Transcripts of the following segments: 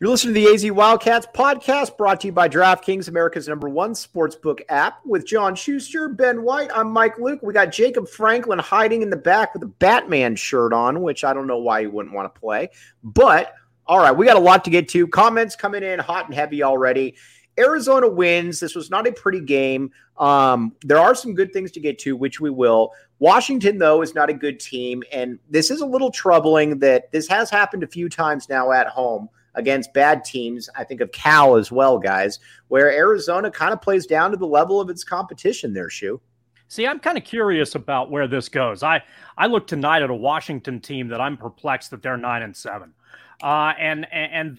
You're listening to the AZ Wildcats podcast, brought to you by DraftKings, America's #1 sportsbook app. With John Schuster, Ben White, I'm Mike Luke. We got Jacob Franklin hiding in the back with a Batman shirt on, which I don't know why he wouldn't want to play. But, all right, we got a lot to get to. Comments coming in hot and heavy already. Arizona wins. This was not a pretty game. There are some good things to get to, which we will. Washington, though, is not a good team, and this is a little troubling that this has happened a few times now at home against bad teams. I think of Cal as well, guys, where Arizona kind of plays down to the level of its competition there, Shu. See, I'm kind of curious about where this goes. I look tonight at a Washington team that I'm perplexed that they're 9-7. And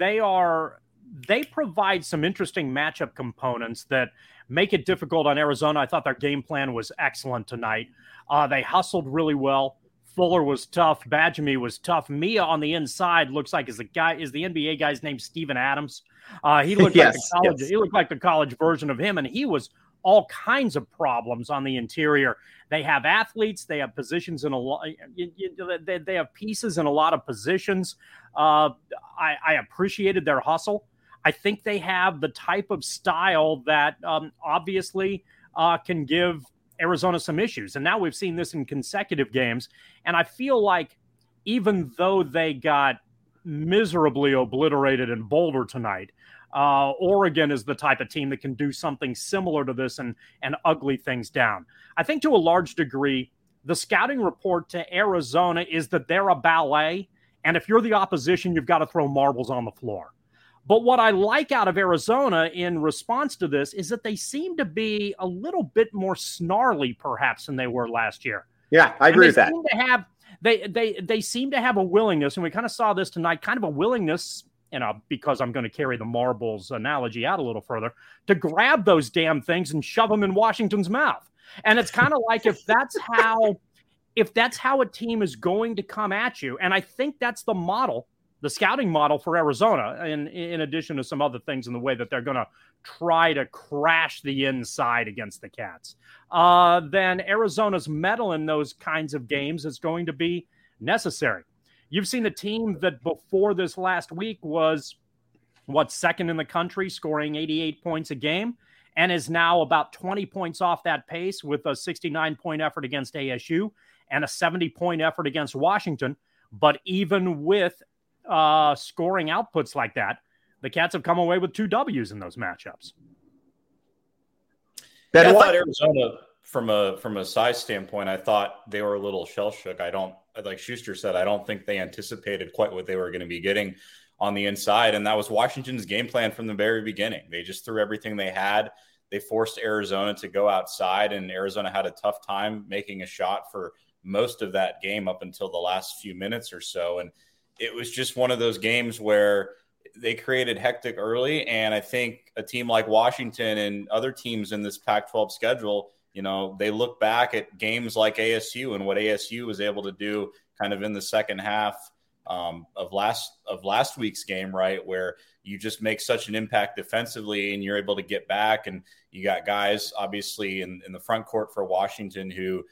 they provide some interesting matchup components that make it difficult on Arizona. I thought their game plan was excellent tonight. They hustled really well. Fuller was tough. Badgemy was tough. Mia on the inside looks like is the NBA guy's name Steven Adams. He looked He looked like the college version of him, and he was all kinds of problems on the interior. They have athletes. They have positions in a lot. They have pieces in a lot of positions. I appreciated their hustle. I think they have the type of style that obviously can give Arizona some issues. And now we've seen this in consecutive games. And I feel like even though they got miserably obliterated in Boulder tonight, Oregon is the type of team that can do something similar to this and ugly things down. I think to a large degree, the scouting report to Arizona is that they're a ballet. And if you're the opposition, you've got to throw marbles on the floor. But what I like out of Arizona in response to this is that they seem to be a little bit more snarly, perhaps, than they were last year. Yeah, I agree with that. They seem to have a willingness, and we kind of saw this tonight, kind of a willingness, because I'm going to carry the marbles analogy out a little further, to grab those damn things and shove them in Washington's mouth. And it's kind of like if that's how a team is going to come at you, and I think that's the model, the scouting model for Arizona, in addition to some other things in the way that they're going to try to crash the inside against the Cats, then Arizona's mettle in those kinds of games is going to be necessary. You've seen the team that before this last week was, second in the country, scoring 88 points a game, and is now about 20 points off that pace with a 69-point effort against ASU and a 70-point effort against Washington. But even with scoring outputs like that, the Cats have come away with 2 W's in those matchups. I thought Arizona, from a size standpoint, I thought they were a little shell shook. Like Schuster said, I don't think they anticipated quite what they were going to be getting on the inside, and that was Washington's game plan from the very beginning. They just threw everything they had. They forced Arizona to go outside, and Arizona had a tough time making a shot for most of that game up until the last few minutes or so. And it was just one of those games where they created hectic early. And I think a team like Washington and other teams in this Pac-12 schedule, they look back at games like ASU and what ASU was able to do kind of in the second half of last week's game, right, where you just make such an impact defensively and you're able to get back. And you got guys, obviously, in the front court for Washington who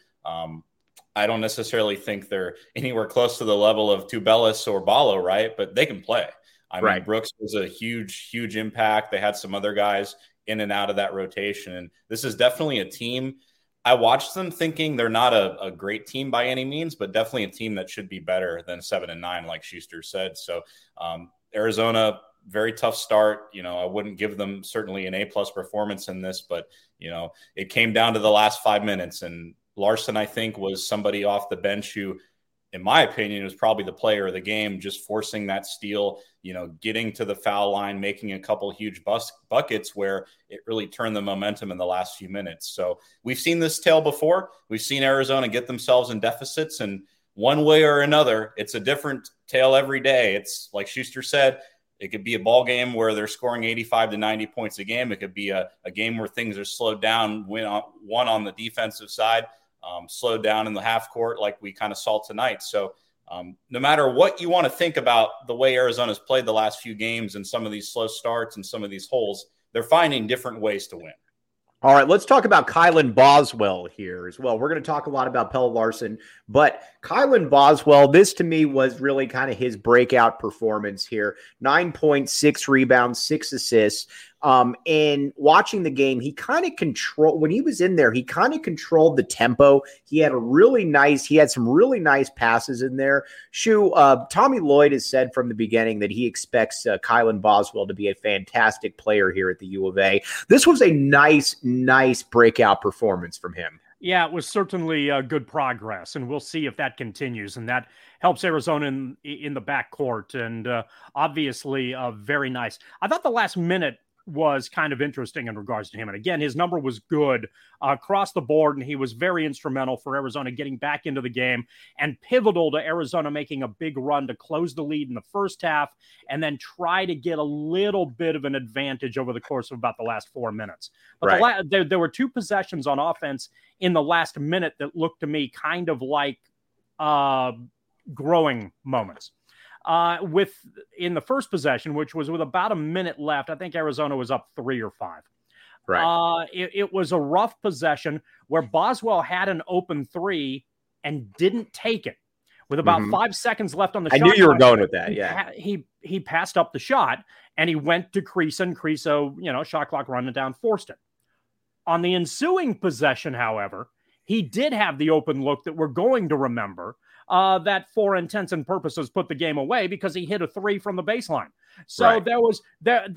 I don't necessarily think they're anywhere close to the level of Tubelis or Ballo, right? But they can play. I mean, Brooks was a huge, huge impact. They had some other guys in and out of that rotation. And this is definitely a team. I watched them thinking they're not a great team by any means, but definitely a team that should be better than 7-9, like Schuster said. So Arizona, very tough start. I wouldn't give them certainly an A+ performance in this, but, it came down to the last 5 minutes, and Larson, I think, was somebody off the bench who, in my opinion, was probably the player of the game, just forcing that steal, getting to the foul line, making a couple huge buckets where it really turned the momentum in the last few minutes. So we've seen this tale before. We've seen Arizona get themselves in deficits, and one way or another, it's a different tale every day. It's like Schuster said, it could be a ball game where they're scoring 85 to 90 points a game. It could be a game where things are slowed down, one on the defensive side, slowed down in the half court like we kind of saw tonight. So no matter what you want to think about the way Arizona's played the last few games and some of these slow starts and some of these holes, they're finding different ways to win. All right, let's talk about Kylan Boswell here as well. We're going to talk a lot about Pelle Larsson, but Kylan Boswell, this to me was really kind of his breakout performance here. 9.6 rebounds, 6 assists. And watching the game, he kind of controlled, when he was in there, he kind of controlled the tempo. He had some really nice passes in there. Tommy Lloyd has said from the beginning that he expects Kylan Boswell to be a fantastic player here at the U of A. This was a nice breakout performance from him. Yeah, it was certainly good progress, and we'll see if that continues, and that helps Arizona in the backcourt, and obviously very nice. I thought the last minute was kind of interesting in regards to him. And again, his number was good across the board, and he was very instrumental for Arizona getting back into the game and pivotal to Arizona making a big run to close the lead in the first half and then try to get a little bit of an advantage over the course of about the last 4 minutes. But there were 2 possessions on offense in the last minute that looked to me kind of like growing moments. In the first possession, which was with about a minute left, I think Arizona was up 3 or 5. Right. It was a rough possession where Boswell had an open 3 and didn't take it. With about 5 seconds left on the shot. I knew you were going with that. Yeah. He passed up the shot and he went to Kriisa, and Kriisa, shot clock running down, forced it. On the ensuing possession, however, he did have the open look that we're going to remember. That for intents and purposes put the game away because he hit a 3 from the baseline. So there was that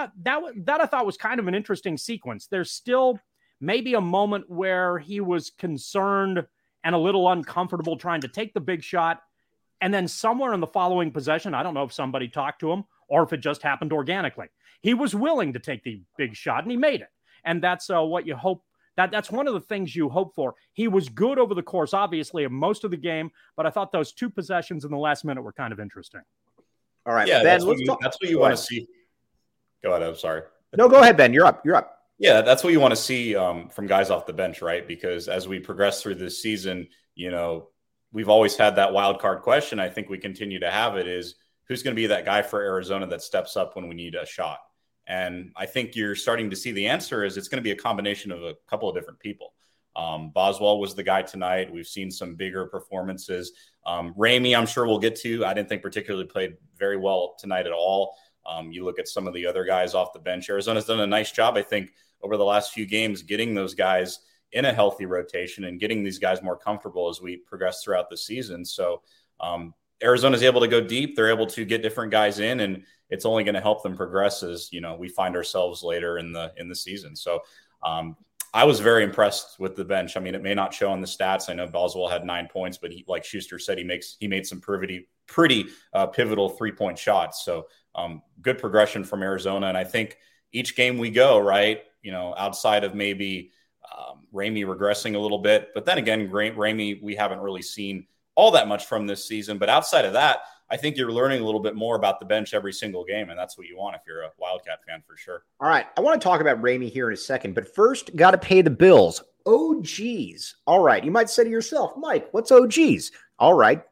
I thought was kind of an interesting sequence. There's still maybe a moment where he was concerned and a little uncomfortable trying to take the big shot. And then somewhere in the following possession, I don't know if somebody talked to him or if it just happened organically. He was willing to take the big shot and he made it. And that's what you hope. That's one of the things you hope for. He was good over the course, obviously, of most of the game, but I thought those 2 possessions in the last minute were kind of interesting. All right, yeah, Ben, that's what you want to see. Go ahead. I'm sorry. No, go ahead, Ben. You're up. Yeah, that's what you want to see from guys off the bench, right? Because as we progress through this season, we've always had that wild card question. I think we continue to have it is who's going to be that guy for Arizona that steps up when we need a shot? And I think you're starting to see the answer is it's going to be a combination of a couple of different people. Boswell was the guy tonight. We've seen some bigger performances. Ramey, I'm sure we'll get to. I didn't think particularly played very well tonight at all. You look at some of the other guys off the bench. Arizona's done a nice job, I think, over the last few games, getting those guys in a healthy rotation and getting these guys more comfortable as we progress throughout the season. So Arizona's able to go deep. They're able to get different guys in, and it's only going to help them progress as, we find ourselves later in the season. So I was very impressed with the bench. I mean, it may not show on the stats. I know Boswell had 9 points, but he, like Schuster said, he made some pretty pivotal 3-point shots. So good progression from Arizona. And I think each game we go, right, outside of maybe Ramey regressing a little bit, but then again, Ramey, we haven't really seen all that much from this season. But outside of that, I think you're learning a little bit more about the bench every single game, and that's what you want if you're a Wildcat fan for sure. All right, I want to talk about Ramey here in a second, but first, got to pay the bills. OGs. All right, you might say to yourself, Mike, what's OGs? All right,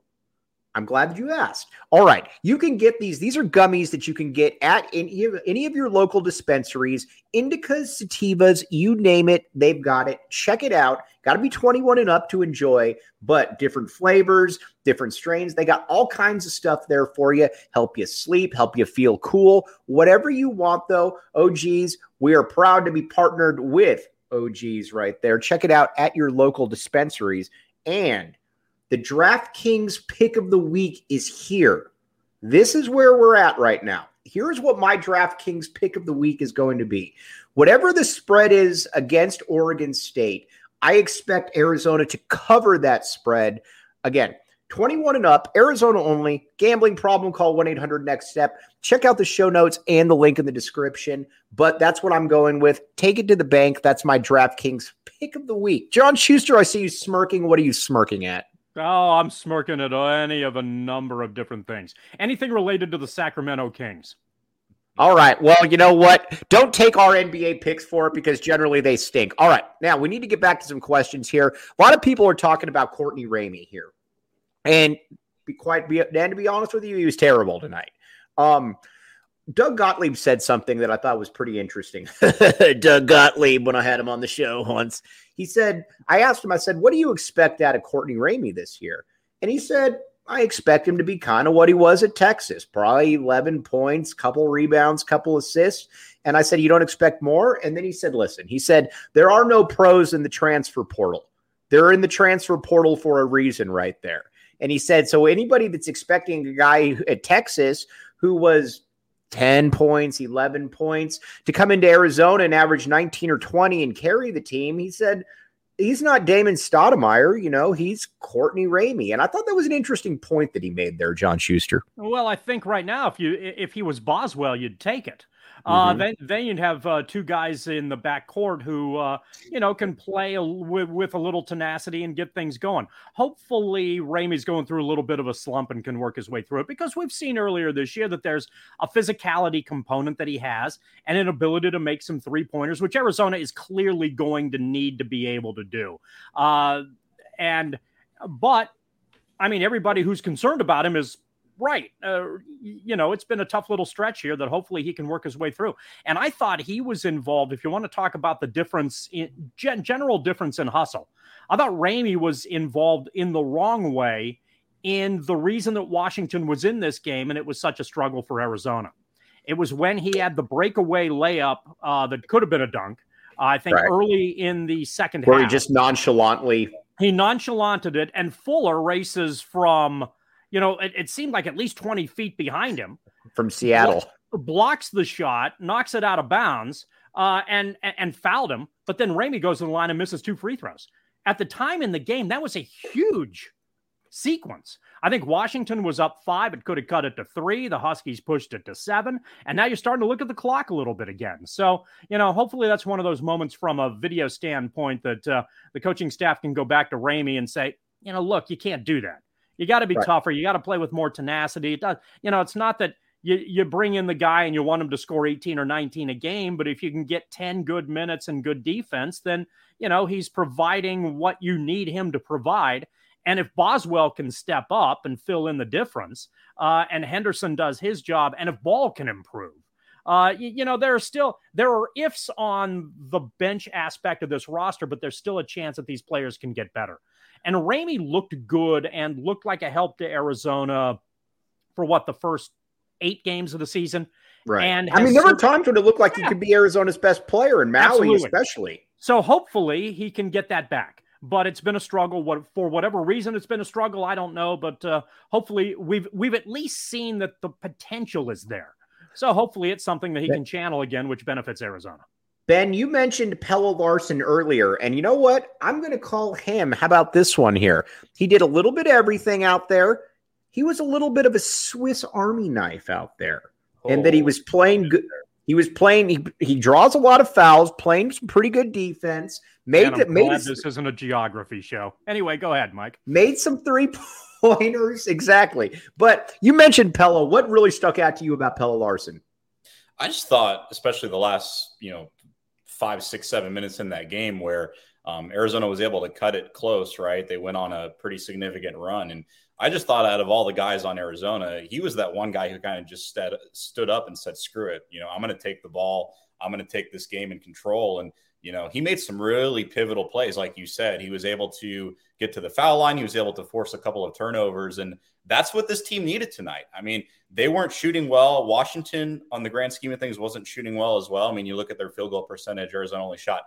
I'm glad that you asked. All right, you can get these. These are gummies that you can get at any of your local dispensaries. Indicas, sativas, you name it, they've got it. Check it out. Got to be 21 and up to enjoy, but different flavors, different strains. They got all kinds of stuff there for you. Help you sleep, help you feel cool. Whatever you want, though, OGs, we are proud to be partnered with OGs right there. Check it out at your local dispensaries. And the DraftKings pick of the week is here. This is where we're at right now. Here's what my DraftKings pick of the week is going to be. Whatever the spread is against Oregon State, I expect Arizona to cover that spread. Again, 21 and up, Arizona only. Gambling problem, call 1-800-NEXT-STEP. Check out the show notes and the link in the description. But that's what I'm going with. Take it to the bank. That's my DraftKings pick of the week. John Schuster, I see you smirking. What are you smirking at? Oh, I'm smirking at any of a number of different things. Anything related to the Sacramento Kings. All right. Well, you know what? Don't take our NBA picks for it because generally they stink. All right. Now, we need to get back to some questions here. A lot of people are talking about Courtney Ramey here. And to be honest with you, he was terrible tonight. Doug Gottlieb said something that I thought was pretty interesting. Doug Gottlieb, when I had him on the show once, he said, I asked him, I said, what do you expect out of Courtney Ramey this year? And he said, I expect him to be kind of what he was at Texas, probably 11 points, couple rebounds, couple assists. And I said, you don't expect more? And then he said, listen, he said, there are no pros in the transfer portal. They're in the transfer portal for a reason right there. And he said, so anybody that's expecting a guy at Texas who was 10 points, 11 points to come into Arizona and average 19 or 20 and carry the team, he said, he's not Damon Stoudemire, he's Courtney Ramey. And I thought that was an interesting point that he made there, John Schuster. Well, I think right now, if he was Boswell, you'd take it. Then you'd have two guys in the backcourt who, can play with a little tenacity and get things going. Hopefully, Ramey's going through a little bit of a slump and can work his way through it, because we've seen earlier this year that there's a physicality component that he has and an ability to make some three-pointers, which Arizona is clearly going to need to be able to do. But, I mean, everybody who's concerned about him is right. It's been a tough little stretch here that hopefully he can work his way through. And I thought he was involved, if you want to talk about the difference in general difference in hustle, I thought Ramey was involved in the wrong way in the reason that Washington was in this game. And it was such a struggle for Arizona. It was when he had the breakaway layup that could have been a dunk. I think early in the second half. Where he just nonchalanted it. And Fuller races from, it seemed like at least 20 feet behind him. From Seattle. Blocks the shot, knocks it out of bounds, and fouled him. But then Ramey goes to the line and misses 2 free throws. At the time in the game, that was a huge sequence. I think Washington was up 5. It could have cut it to 3. The Huskies pushed it to 7. And now you're starting to look at the clock a little bit again. So, hopefully that's one of those moments from a video standpoint that the coaching staff can go back to Ramey and say, look, you can't do that. You got to be tougher. You got to play with more tenacity. It does, it's not that you bring in the guy and you want him to score 18 or 19 a game, but if you can get 10 good minutes and good defense, then, he's providing what you need him to provide. And if Boswell can step up and fill in the difference, and Henderson does his job, and if Ball can improve, there are ifs on the bench aspect of this roster, but there's still a chance that these players can get better. And Ramey looked good and looked like a help to Arizona for the first 8 games of the season. Right. And there were times when it looked like he could be Arizona's best player, and Maui especially. So hopefully he can get that back. But it's been a struggle. For whatever reason, it's been a struggle. I don't know. But hopefully we've at least seen that the potential is there. So hopefully it's something that he can channel again, which benefits Arizona. Ben, you mentioned Pelle Larsson earlier, and you know what? I'm going to call him. How about this one here? He did a little bit of everything out there. He was a little bit of a Swiss Army knife out there, and that he was playing good. He was playing. He draws a lot of fouls, playing some pretty good defense. This isn't a geography show. Anyway, go ahead, Mike. Made some 3-pointers, exactly. But you mentioned Pelle. What really stuck out to you about Pelle Larsson? I just thought, especially the last 5, 6, 7 minutes in that game where Arizona was able to cut it close, right? They went on a pretty significant run. And I just thought out of all the guys on Arizona, he was that one guy who kind of just stood up and said, screw it. I'm going to take the ball. I'm going to take this game in control. And, he made some really pivotal plays. Like you said, he was able to get to the foul line. He was able to force a couple of turnovers. And that's what this team needed tonight. I mean, they weren't shooting well. Washington, on the grand scheme of things, wasn't shooting well as well. I mean, you look at their field goal percentage, Arizona only shot,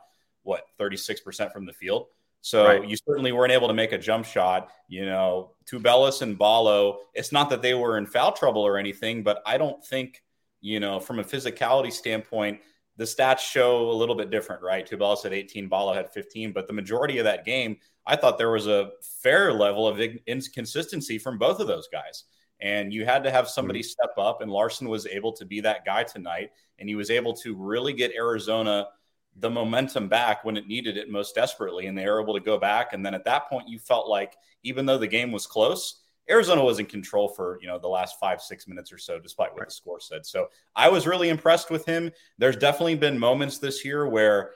36% from the field. So you certainly weren't able to make a jump shot. Tubelis and Ballo, it's not that they were in foul trouble or anything, but I don't think, from a physicality standpoint, the stats show a little bit different, right? Tubelis had 18, Ballo had 15, but the majority of that game, I thought there was a fair level of inconsistency from both of those guys. And you had to have somebody step up, and Larsson was able to be that guy tonight. And he was able to really get Arizona the momentum back when it needed it most desperately. And they were able to go back. And then at that point, you felt like even though the game was close, Arizona was in control for, the last 5-6 minutes or so, despite what the score said. So I was really impressed with him. There's definitely been moments this year where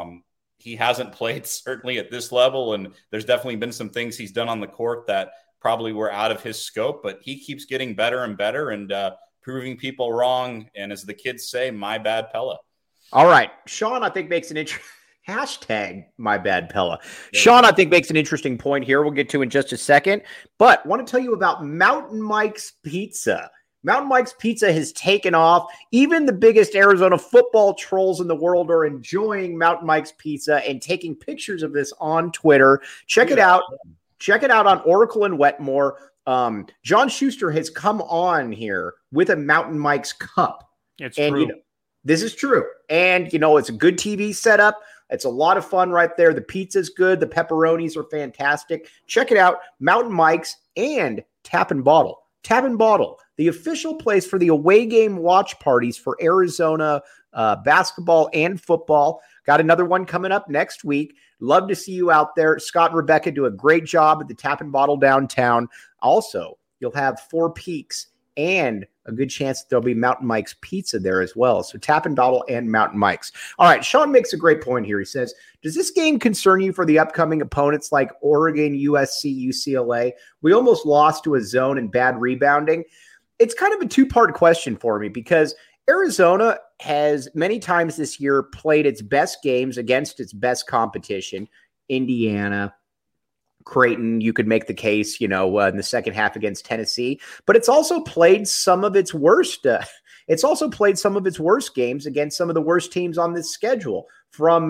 he hasn't played certainly at this level. And there's definitely been some things he's done on the court that probably were out of his scope, but he keeps getting better and better. And proving people wrong. And as the kids say, my bad, Pella. All right. Sean, I think makes an interesting hashtag my bad Pella. Sean, I think makes an interesting point here. We'll get to in just a second, but want to tell you about Mountain Mike's Pizza. Mountain Mike's Pizza has taken off. Even the biggest Arizona football trolls in the world are enjoying Mountain Mike's Pizza and taking pictures of this on Twitter. Check it out. Check it out on Oracle and Wetmore. John Schuster has come on here with a Mountain Mike's cup. It's true. This is true. And, it's a good TV setup. It's a lot of fun right there. The pizza's good. The pepperonis are fantastic. Check it out. Mountain Mike's and Tap and Bottle. Tap and Bottle, the official place for the away game watch parties for Arizona basketball and football. Got another one coming up next week. Love to see you out there. Scott and Rebecca do a great job at the Tap and Bottle downtown. Also, you'll have Four Peaks and a good chance that there'll be Mountain Mike's Pizza there as well. So Tap and Bottle and Mountain Mike's. All right, Sean makes a great point here. He says, does this game concern you for the upcoming opponents like Oregon, USC, UCLA? We almost lost to a zone and bad rebounding. It's kind of a two-part question for me because Arizona has many times this year played its best games against its best competition, Indiana, Creighton. You could make the case, in the second half against Tennessee, but it's also played some of its worst. It's also played some of its worst games against some of the worst teams on this schedule. From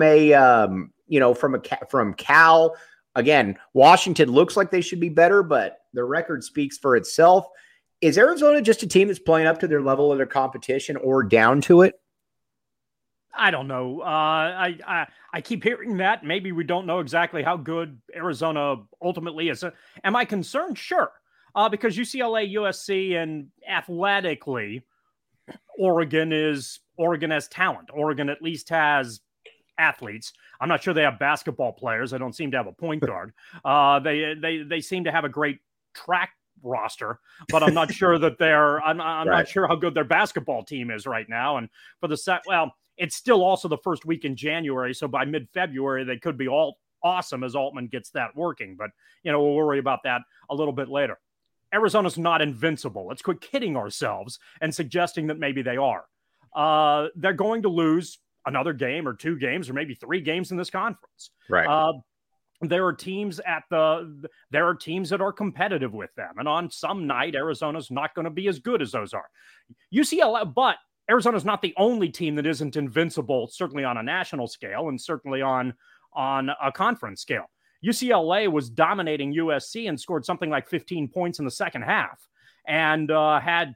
Cal. Again, Washington looks like they should be better, but the record speaks for itself. Is Arizona just a team that's playing up to their level of their competition or down to it? I don't know. I keep hearing that. Maybe we don't know exactly how good Arizona ultimately is. Am I concerned? Sure. Because UCLA, USC, and athletically, Oregon has talent. Oregon at least has athletes. I'm not sure they have basketball players. I don't seem to have a point guard. They seem to have a great track roster, but I'm not sure that I'm not sure how good their basketball team is right now. And for it's still also the first week in January, so by mid-February they could be all awesome as Altman gets that working. But we'll worry about that a little bit later. Arizona's not invincible. Let's quit kidding ourselves and suggesting that maybe they are. They're going to lose another game or two games or maybe three games in this conference. Right. There are teams that are competitive with them. And on some night, Arizona's not going to be as good as those are. UCLA, but Arizona's not the only team that isn't invincible, certainly on a national scale and certainly on a conference scale. UCLA was dominating USC and scored something like 15 points in the second half and had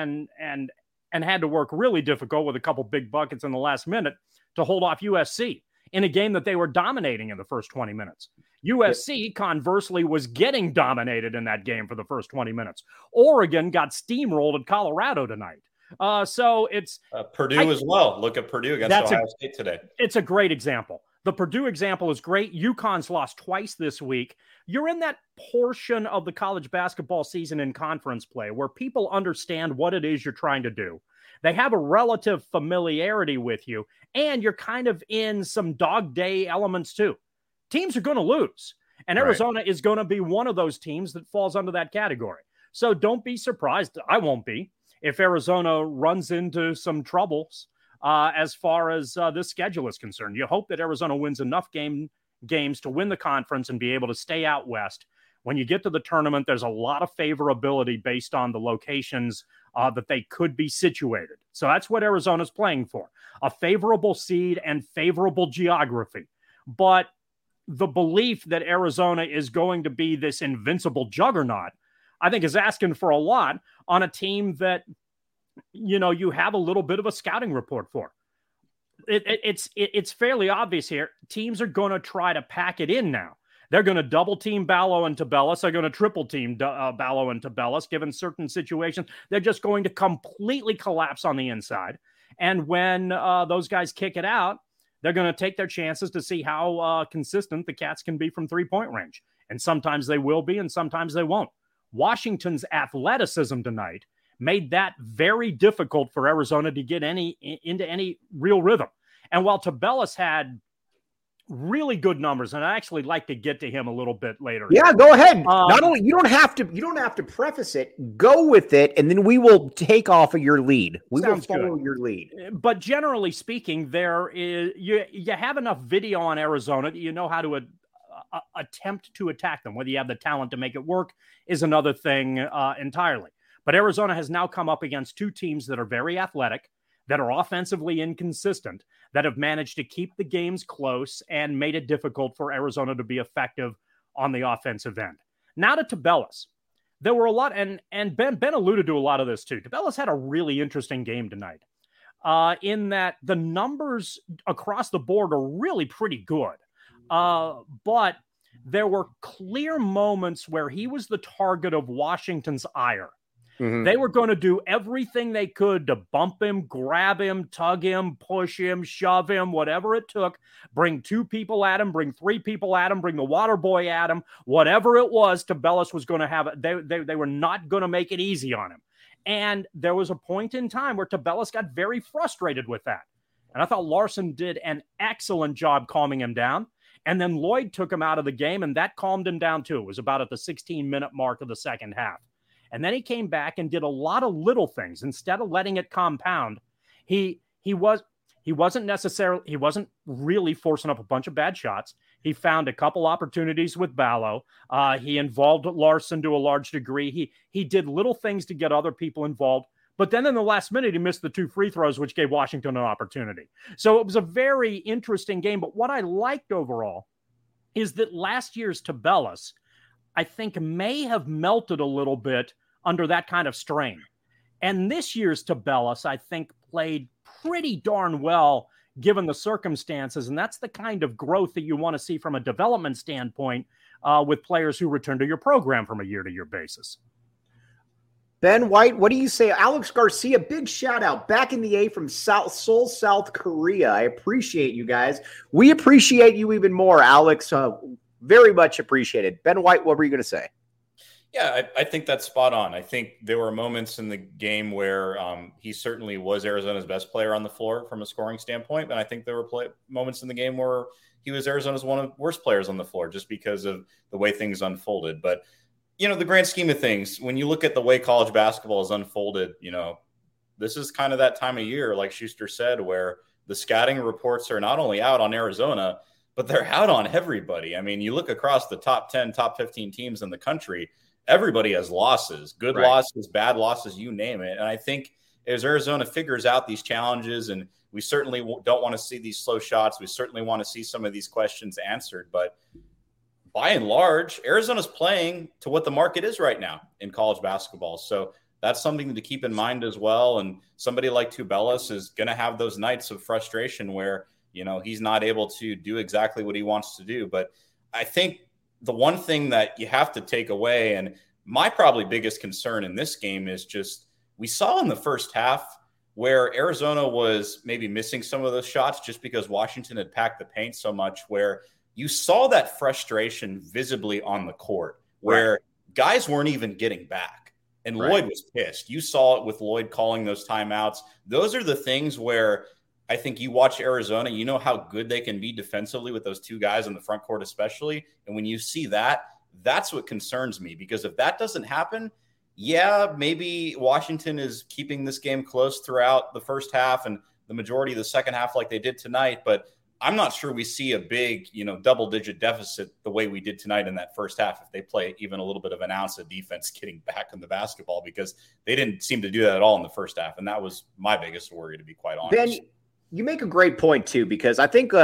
to work really difficult with a couple big buckets in the last minute to hold off USC in a game that they were dominating in the first 20 minutes. USC, conversely, was getting dominated in that game for the first 20 minutes. Oregon got steamrolled at Colorado tonight. So it's Purdue as well. Look at Purdue against Ohio State today. It's a great example. The Purdue example is great. UConn's lost twice this week. You're in that portion of the college basketball season in conference play where people understand what it is you're trying to do. They have a relative familiarity with you, and you're kind of in some dog day elements too. Teams are going to lose, and Arizona is going to be one of those teams that falls under that category. So don't be surprised. I won't be if Arizona runs into some troubles as far as this schedule is concerned. You hope that Arizona wins enough games to win the conference and be able to stay out west. When you get to the tournament, there's a lot of favorability based on the locations that they could be situated. So that's what Arizona's playing for, a favorable seed and favorable geography. But the belief that Arizona is going to be this invincible juggernaut, I think, is asking for a lot on a team that, you have a little bit of a scouting report for. It's fairly obvious here. Teams are going to try to pack it in now. They're going to double team Ballo and Tabellas. They're going to triple team Ballo and Tabellas, given certain situations. They're just going to completely collapse on the inside. And when those guys kick it out, they're going to take their chances to see how consistent the Cats can be from three-point range. And sometimes they will be, and sometimes they won't. Washington's athleticism tonight made that very difficult for Arizona to get into any real rhythm. And while Tabellas had Really good numbers, and I actually like to get to him a little bit later. Yeah, go ahead. Not only you don't have to preface it. Go with it, and then we will take off of your lead. We will follow your lead. But generally speaking, there is you have enough video on Arizona that you know how to attempt to attack them. Whether you have the talent to make it work is another thing entirely. But Arizona has now come up against two teams that are very athletic, that are offensively inconsistent, that have managed to keep the games close and made it difficult for Arizona to be effective on the offensive end. Now to Tubelis. There were a lot, and Ben alluded to a lot of this too. Tubelis had a really interesting game tonight in that the numbers across the board are really pretty good. But there were clear moments where he was the target of Washington's ire. Mm-hmm. They were going to do everything they could to bump him, grab him, tug him, push him, shove him, whatever it took. Bring two people at him, bring three people at him, bring the water boy at him. Whatever it was, Tubelis was going to have it. They were not going to make it easy on him. And there was a point in time where Tubelis got very frustrated with that. And I thought Larson did an excellent job calming him down. And then Lloyd took him out of the game, and that calmed him down too. It was about at the 16-minute mark of the second half. And then he came back and did a lot of little things. Instead of letting it compound, he wasn't really forcing up a bunch of bad shots. He found a couple opportunities with Ballo. He involved Larson to a large degree. He did little things to get other people involved. But then in the last minute, he missed the two free throws, which gave Washington an opportunity. So it was a very interesting game. But what I liked overall is that last year's Tubelis, I think, may have melted a little bit under that kind of strain. And this year's Tubelis, I think, played pretty darn well given the circumstances. And that's the kind of growth that you want to see from a development standpoint with players who return to your program from a year-to-year basis. Ben White, what do you say? Alex Garcia, big shout out back in the A from Seoul, South Korea. I appreciate you guys. We appreciate you even more, Alex. Very much appreciated. Ben White, what were you going to say? Yeah, I think that's spot on. I think there were moments in the game where he certainly was Arizona's best player on the floor from a scoring standpoint. And I think there were moments in the game where he was Arizona's one of the worst players on the floor just because of the way things unfolded. But, you know, the grand scheme of things, when you look at the way college basketball is unfolded, you know, this is kind of that time of year, like Schuster said, where the scouting reports are not only out on Arizona, but they're out on everybody. I mean, you look across the top 10, top 15 teams in the country, everybody has losses, good losses, bad losses, you name it. And I think as Arizona figures out these challenges, and we certainly don't want to see these slow shots, we certainly want to see some of these questions answered. But by and large, Arizona's playing to what the market is right now in college basketball. So that's something to keep in mind as well. And somebody like Tubelis is going to have those nights of frustration where, you know, he's not able to do exactly what he wants to do. But I think the one thing that you have to take away, and my probably biggest concern in this game, is just we saw in the first half where Arizona was maybe missing some of those shots just because Washington had packed the paint so much, where you saw that frustration visibly on the court where guys weren't even getting back. And Lloyd was pissed. You saw it with Lloyd calling those timeouts. Those are the things where I think you watch Arizona, you know how good they can be defensively with those two guys in the front court especially. And when you see that, that's what concerns me, because if that doesn't happen, yeah, maybe Washington is keeping this game close throughout the first half and the majority of the second half like they did tonight. But I'm not sure we see a big, you know, double-digit deficit the way we did tonight in that first half if they play even a little bit of an ounce of defense getting back in the basketball, because they didn't seem to do that at all in the first half. And that was my biggest worry, to be quite honest. Ben, you make a great point too, because I think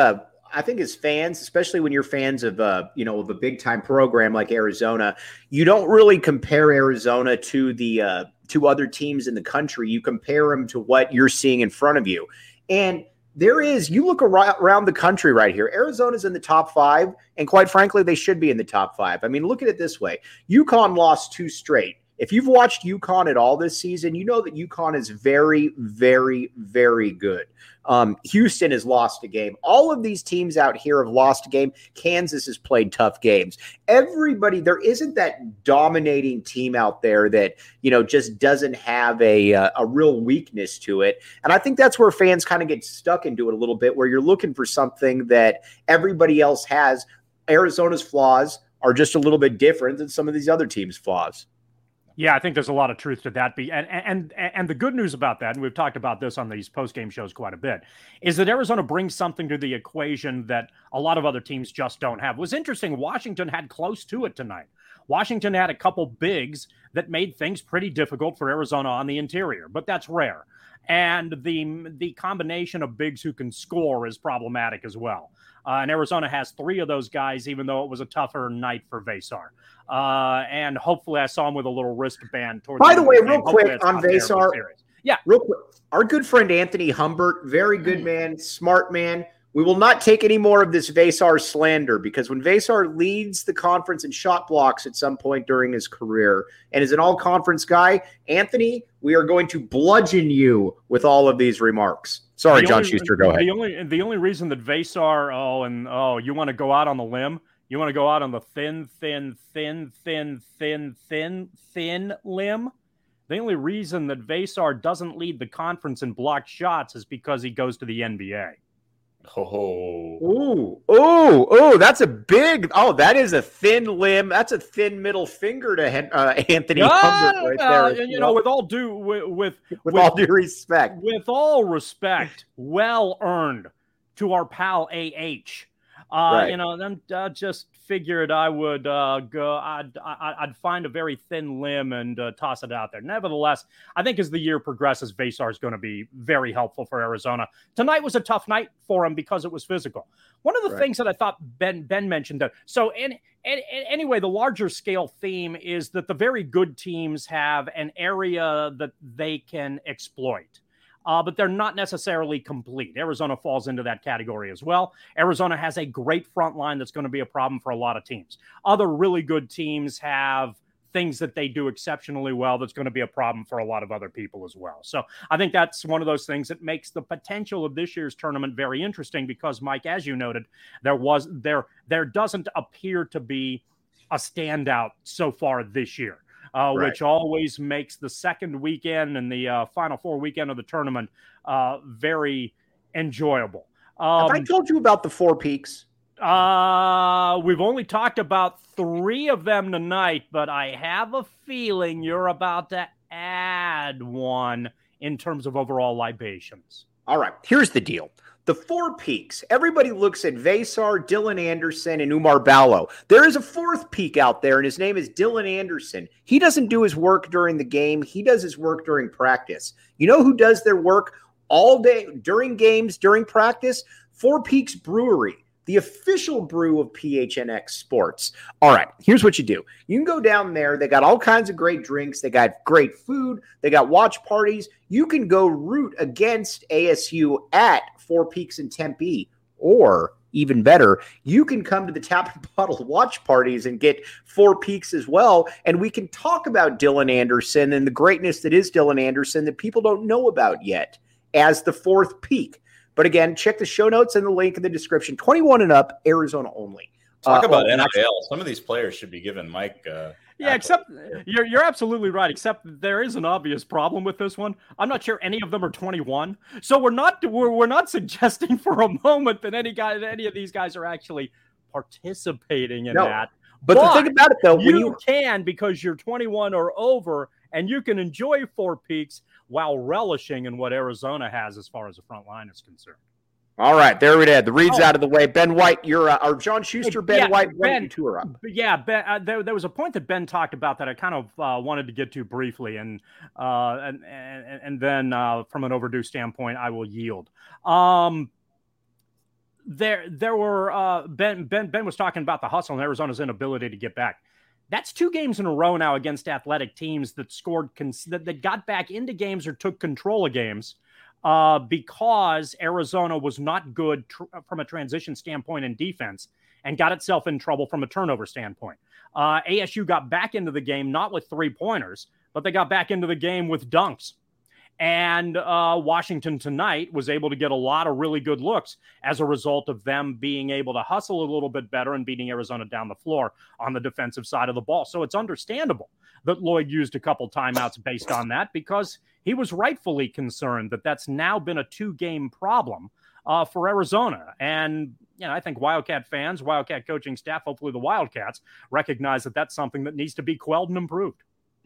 as fans, especially when you're fans of of a big time program like Arizona, you don't really compare Arizona to the to other teams in the country. You compare them to what you're seeing in front of you. And you look around the country right here, Arizona's in the top 5, and quite frankly, they should be in the top 5. I mean, look at it this way. UConn lost 2 straight. If you've watched UConn at all this season, you know that UConn is very, very, very good. Houston has lost a game. All of these teams out here have lost a game. Kansas has played tough games. Everybody, there isn't that dominating team out there that, just doesn't have a real weakness to it. And I think that's where fans kind of get stuck into it a little bit, where you're looking for something that everybody else has. Arizona's flaws are just a little bit different than some of these other teams' flaws. Yeah, I think there's a lot of truth to that. And the good news about that, and we've talked about this on these post-game shows quite a bit, is that Arizona brings something to the equation that a lot of other teams just don't have. It was interesting. Washington had close to it tonight. Washington had a couple bigs that made things pretty difficult for Arizona on the interior, but that's rare. And the combination of bigs who can score is problematic as well. And Arizona has three of those guys, even though it was a tougher night for Vesar. And hopefully I saw him with a little wristband. By the way, real quick on Vesar. Yeah. Real quick. Our good friend Anthony Humbert, very good man, smart man. We will not take any more of this Vesar slander, because when Vesar leads the conference in shot blocks at some point during his career and is an all-conference guy, Anthony, we are going to bludgeon you with all of these remarks. Sorry, John Schuster, go ahead. The only reason that Vesar, you want to go out on the limb? You want to go out on the thin limb? The only reason that Vesar doesn't lead the conference in blocked shots is because he goes to the NBA. That's a big. That is a thin limb. That's a thin middle finger to Anthony Humbert right there. With all due respect, well earned to our pal AH. Then just figured I would I'd find a very thin limb and toss it out there. Nevertheless, I think as the year progresses, Vesar is going to be very helpful for Arizona. Tonight was a tough night for him because it was physical. One of the things that I thought Ben mentioned, anyway, the larger scale theme is that the very good teams have an area that they can exploit. But they're not necessarily complete. Arizona falls into that category as well. Arizona has a great front line that's going to be a problem for a lot of teams. Other really good teams have things that they do exceptionally well that's going to be a problem for a lot of other people as well. So I think that's one of those things that makes the potential of this year's tournament very interesting, because, Mike, as you noted, there doesn't appear to be a standout so far this year. Which always makes the second weekend and the Final Four weekend of the tournament very enjoyable. Have I told you about the Four Peaks? We've only talked about three of them tonight, but I have a feeling you're about to add one in terms of overall libations. All right, here's the deal. The Four Peaks, everybody looks at Vesar, Dylan Anderson, and Umar Ballo. There is a fourth peak out there, and his name is Dylan Anderson. He doesn't do his work during the game. He does his work during practice. You know who does their work all day, during games, during practice? Four Peaks Brewery, the official brew of PHNX Sports. All right, here's what you do. You can go down there. They got all kinds of great drinks. They got great food. They got watch parties. You can go root against ASU at Four Peaks in Tempe, or even better, you can come to the Tap and Bottle watch parties and get Four Peaks as well. And we can talk about Dylan Anderson and the greatness that is Dylan Anderson that people don't know about yet as the fourth peak. But again, check the show notes and the link in the description. 21 and up, Arizona only. Talk about NIL. Some of these players should be giving Mike. Except you're absolutely right. Except there is an obvious problem with this one. I'm not sure any of them are 21. So we're not suggesting for a moment that any of these guys are actually participating in that. But the thing about it, though, you can, because you're 21 or over, and you can enjoy Four Peaks while relishing in what Arizona has as far as the front line is concerned. All right, there we go. The read's out of the way. Ben White, you're or John Schuster, White, Ben, two are up. Yeah, Ben. There was a point that Ben talked about that I kind of wanted to get to briefly, and then from an overdue standpoint, I will yield. There were Ben was talking about the hustle and Arizona's inability to get back. That's 2 games in a row now against athletic teams that scored that got back into games or took control of games. Because Arizona was not good from a transition standpoint in defense, and got itself in trouble from a turnover standpoint. ASU got back into the game, not with 3-pointers, but they got back into the game with dunks. And Washington tonight was able to get a lot of really good looks as a result of them being able to hustle a little bit better and beating Arizona down the floor on the defensive side of the ball. So it's understandable that Lloyd used a couple timeouts based on that, because he was rightfully concerned that that's now been a 2-game problem for Arizona. And I think Wildcat fans, Wildcat coaching staff, hopefully the Wildcats, recognize that that's something that needs to be quelled and improved.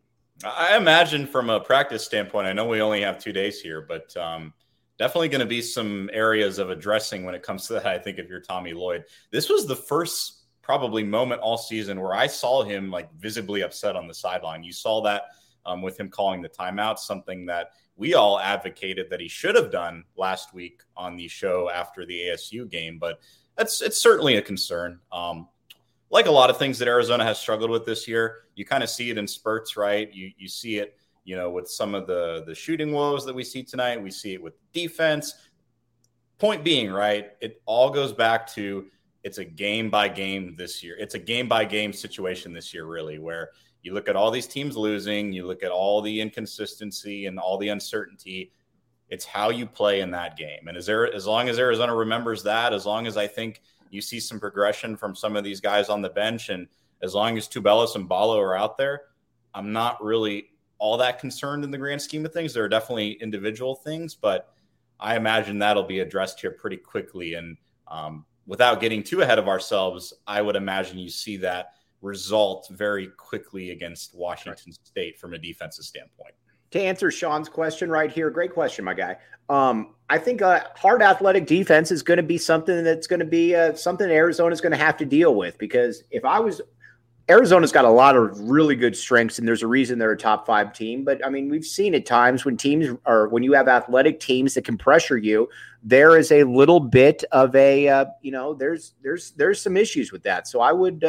I imagine from a practice standpoint, I know we only have 2 days here, but definitely going to be some areas of addressing when it comes to that. I think if you're Tommy Lloyd, this was the first probably moment all season where I saw him like visibly upset on the sideline. You saw that with him calling the timeout, something that we all advocated that he should have done last week on the show after the ASU game, but it's certainly a concern. Like a lot of things that Arizona has struggled with this year, you kind of see it in spurts, right? You see it, with some of the shooting woes that we see tonight. We see it with defense. Point being, right, it all goes back to it's a game-by-game this year. It's a game-by-game situation this year, really, where you look at all these teams losing, you look at all the inconsistency and all the uncertainty. It's how you play in that game. And as long as Arizona remembers that, as long as I think you see some progression from some of these guys on the bench, and as long as Tubelis and Ballo are out there, I'm not really all that concerned in the grand scheme of things. There are definitely individual things, but I imagine that'll be addressed here pretty quickly. And without getting too ahead of ourselves, I would imagine you see that result very quickly against Washington State from a defensive standpoint. To answer Sean's question right here, great question, my guy. I think hard athletic defense is going to be something that's going to be something Arizona's going to have to deal with, because Arizona's got a lot of really good strengths, and there's a reason they're a top 5 team. But I mean, we've seen at times when when you have athletic teams that can pressure you, there is a little bit of a there's some issues with that. So I would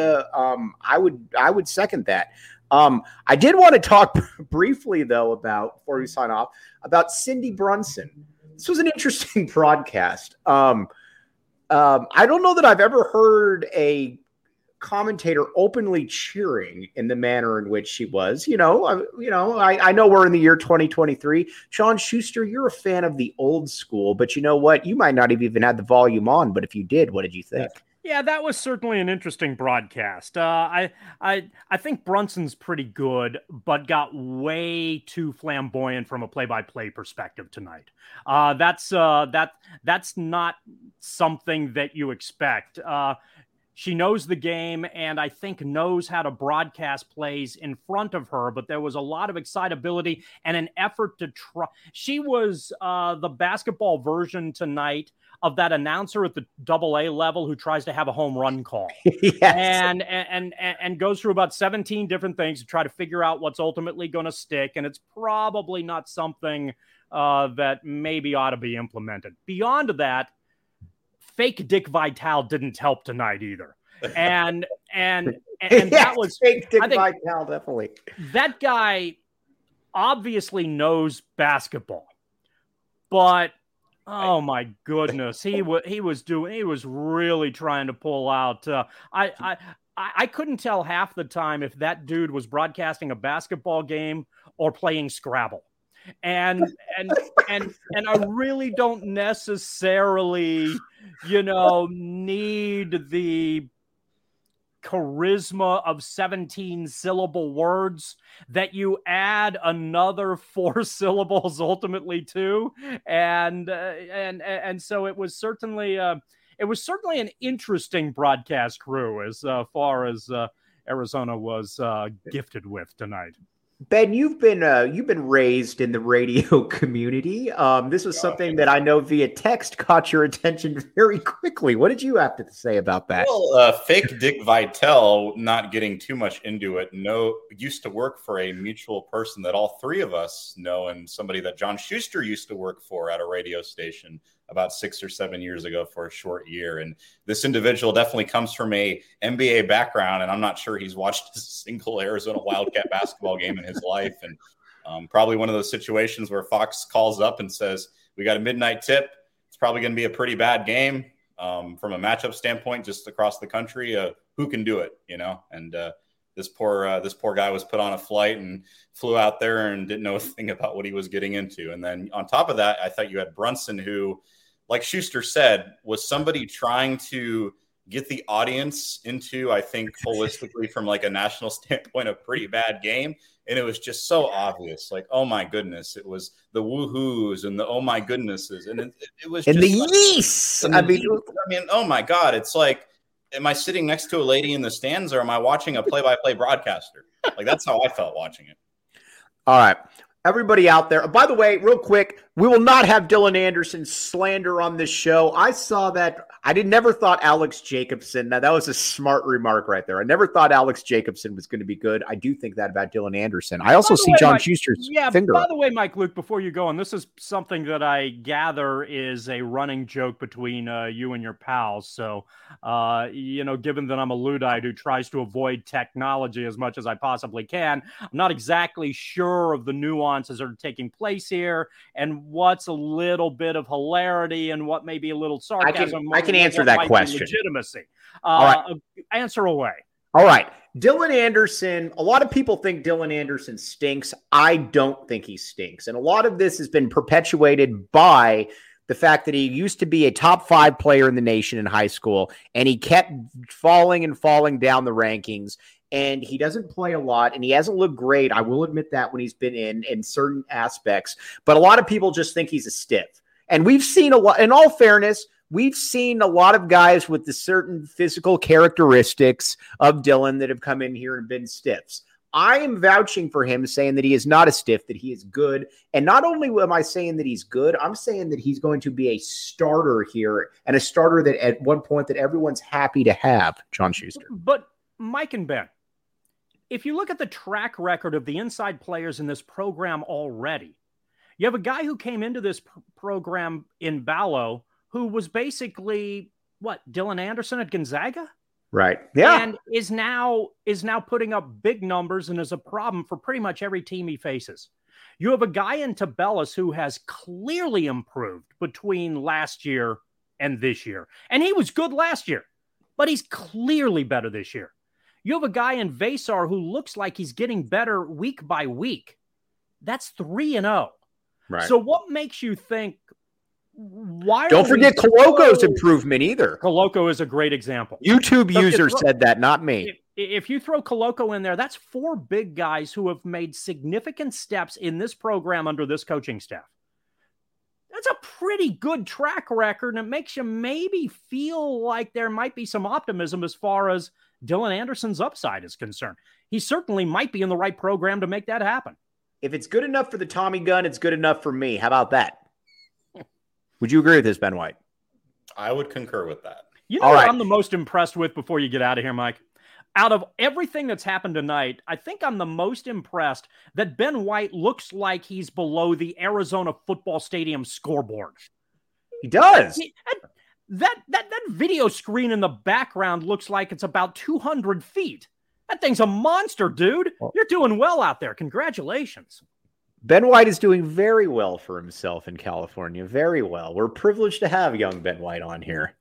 second that. I did want to talk briefly, though, before we sign off, about Cindy Brunson. This was an interesting broadcast. I don't know that I've ever heard a commentator openly cheering in the manner in which she was. I know we're in the year 2023. Sean Schuster, you're a fan of the old school, but you know what? You might not have even had the volume on, but if you did, what did you think? Yeah, that was certainly an interesting broadcast. I think Brunson's pretty good, but got way too flamboyant from a play-by-play perspective tonight. That's not something that you expect. She knows the game, and I think knows how to broadcast plays in front of her, but there was a lot of excitability and an effort to try. She was the basketball version tonight of that announcer at the AA level who tries to have a home run call. Yes. and goes through about 17 different things to try to figure out what's ultimately going to stick. And it's probably not something that maybe ought to be implemented. Beyond that, fake Dick Vitale didn't help tonight either. And yes, that was fake Dick Vitale, definitely. That guy obviously knows basketball, but oh my goodness, he was really trying to pull out. I couldn't tell half the time if that dude was broadcasting a basketball game or playing Scrabble. And I really don't necessarily, need the charisma of 17 syllable words that you add another 4 syllables ultimately to. And so it was certainly an interesting broadcast crew as far as Arizona was gifted with tonight. Ben, you've been raised in the radio community. This was something that I know via text caught your attention very quickly. What did you have to say about that? Well, fake Dick Vitale, not getting too much into it, used to work for a mutual person that all 3 of us know, and somebody that John Schuster used to work for at a radio station about 6 or 7 years ago for a short year. And this individual definitely comes from a NBA background, and I'm not sure he's watched a single Arizona Wildcat basketball game in his life. And probably one of those situations where Fox calls up and says, we got a midnight tip. It's probably going to be a pretty bad game. from a matchup standpoint, just across the country, who can do it, and this poor guy was put on a flight and flew out there and didn't know a thing about what he was getting into. And then on top of that, I thought you had Brunson, who, like Schuster said, was somebody trying to get the audience into, I think, holistically from like a national standpoint, a pretty bad game. And it was just so obvious, like, oh my goodness, it was the woohoos and the oh my goodnesses, and it was and just the yeast. I mean, oh my God, it's like, am I sitting next to a lady in the stands, or am I watching a play-by-play broadcaster? Like, that's how I felt watching it. All right. Everybody out there. By the way, real quick, we will not have Dylan Anderson slander on this show. I saw that. Never thought Alex Jacobson. Now, that was a smart remark right there. I never thought Alex Jacobson was going to be good. I do think that about Dylan Anderson. I also see John Schuster's finger. By the way, Mike Luke, before you go on, this is something that I gather is a running joke between you and your pals. So, given that I'm a Luddite who tries to avoid technology as much as I possibly can, I'm not exactly sure of the nuances that are taking place here and what's a little bit of hilarity and what may be a little sarcasm. I can answer that question. Legitimacy. All right. Answer away. All right. Dylan Anderson, a lot of people think Dylan Anderson stinks. I don't think he stinks. And a lot of this has been perpetuated by the fact that he used to be a top 5 player in the nation in high school, and he kept falling down the rankings. And he doesn't play a lot, and he hasn't looked great. I will admit that when he's been in certain aspects. But a lot of people just think he's a stiff. And we've seen a lot, in all fairness, we've seen a lot of guys with the certain physical characteristics of Dylan that have come in here and been stiffs. I am vouching for him, saying that he is not a stiff, that he is good. And not only am I saying that he's good, I'm saying that he's going to be a starter here, and a starter that at one point that everyone's happy to have, John Schuster. But Mike and Ben, if you look at the track record of the inside players in this program already, you have a guy who came into this program in Ballo who was basically, Dylan Anderson at Gonzaga? Right. Yeah. And is now putting up big numbers and is a problem for pretty much every team he faces. You have a guy in Tabellis who has clearly improved between last year and this year. And he was good last year, but he's clearly better this year. You have a guy in Vasar who looks like he's getting better week by week. That's 3-0. Right. So what makes you think, why? Don't forget Coloco's improvement either. Coloco is a great example. YouTube user said that, not me. If you throw Coloco in there, that's 4 big guys who have made significant steps in this program under this coaching staff. That's a pretty good track record, and it makes you maybe feel like there might be some optimism as far as Dylan Anderson's upside is concerned. He certainly might be in the right program to make that happen. If it's good enough for the Tommy gun, it's good enough for me. How about that? Would you agree with this, Ben White? I would concur with that. You know what I'm the most impressed with before you get out of here, Mike? Out of everything that's happened tonight, I think I'm the most impressed that Ben White looks like he's below the Arizona Football Stadium scoreboard. He does. That video screen in the background looks like it's about 200 feet. That thing's a monster, dude. You're doing well out there. Congratulations. Ben White is doing very well for himself in California. Very well. We're privileged to have young Ben White on here.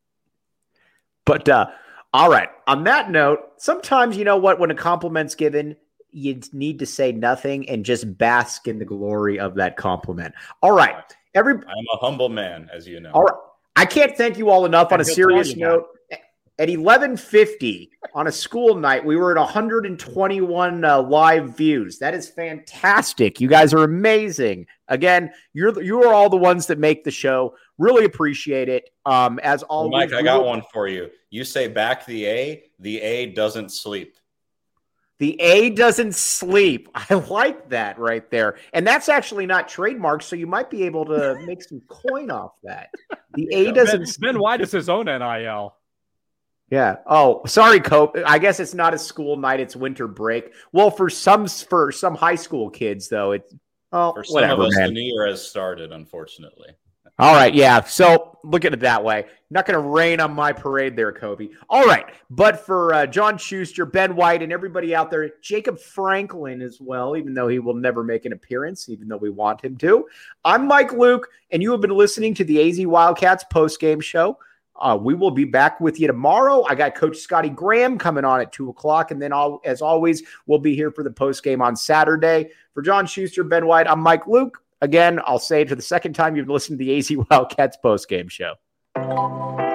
But, all right. On that note, sometimes, you know what, when a compliment's given, you need to say nothing and just bask in the glory of that compliment. All right. I'm a humble man, as you know. All right. I can't thank you all enough. On a serious note, at 11:50 on a school night, we were at 121 live views. That is fantastic. You guys are amazing. Again, you are all the ones that make the show. Really appreciate it. As always, Mike, I got one for you. You say back the A doesn't sleep. The A doesn't sleep. I like that right there. And that's actually not trademarked, so you might be able to make some coin off that. The A doesn't sleep. Ben White is his own NIL. Yeah. Oh, sorry, Cope. I guess it's not a school night. It's winter break. Well, for some high school kids, though, it's for some whatever, of us, man. the new year has started, unfortunately. All right. Yeah. So look at it that way. Not going to rain on my parade there, Kobe. All right. But for John Schuster, Ben White, and everybody out there, Jacob Franklin as well, even though he will never make an appearance, even though we want him to. I'm Mike Luke, and you have been listening to the AZ Wildcats postgame show. We will be back with you tomorrow. I got Coach Scotty Graham coming on at 2:00. And then as always, we'll be here for the post game on Saturday. For John Schuster, Ben White, I'm Mike Luke. Again, I'll say it for the second time, you've listened to the AZ Wildcats post game show.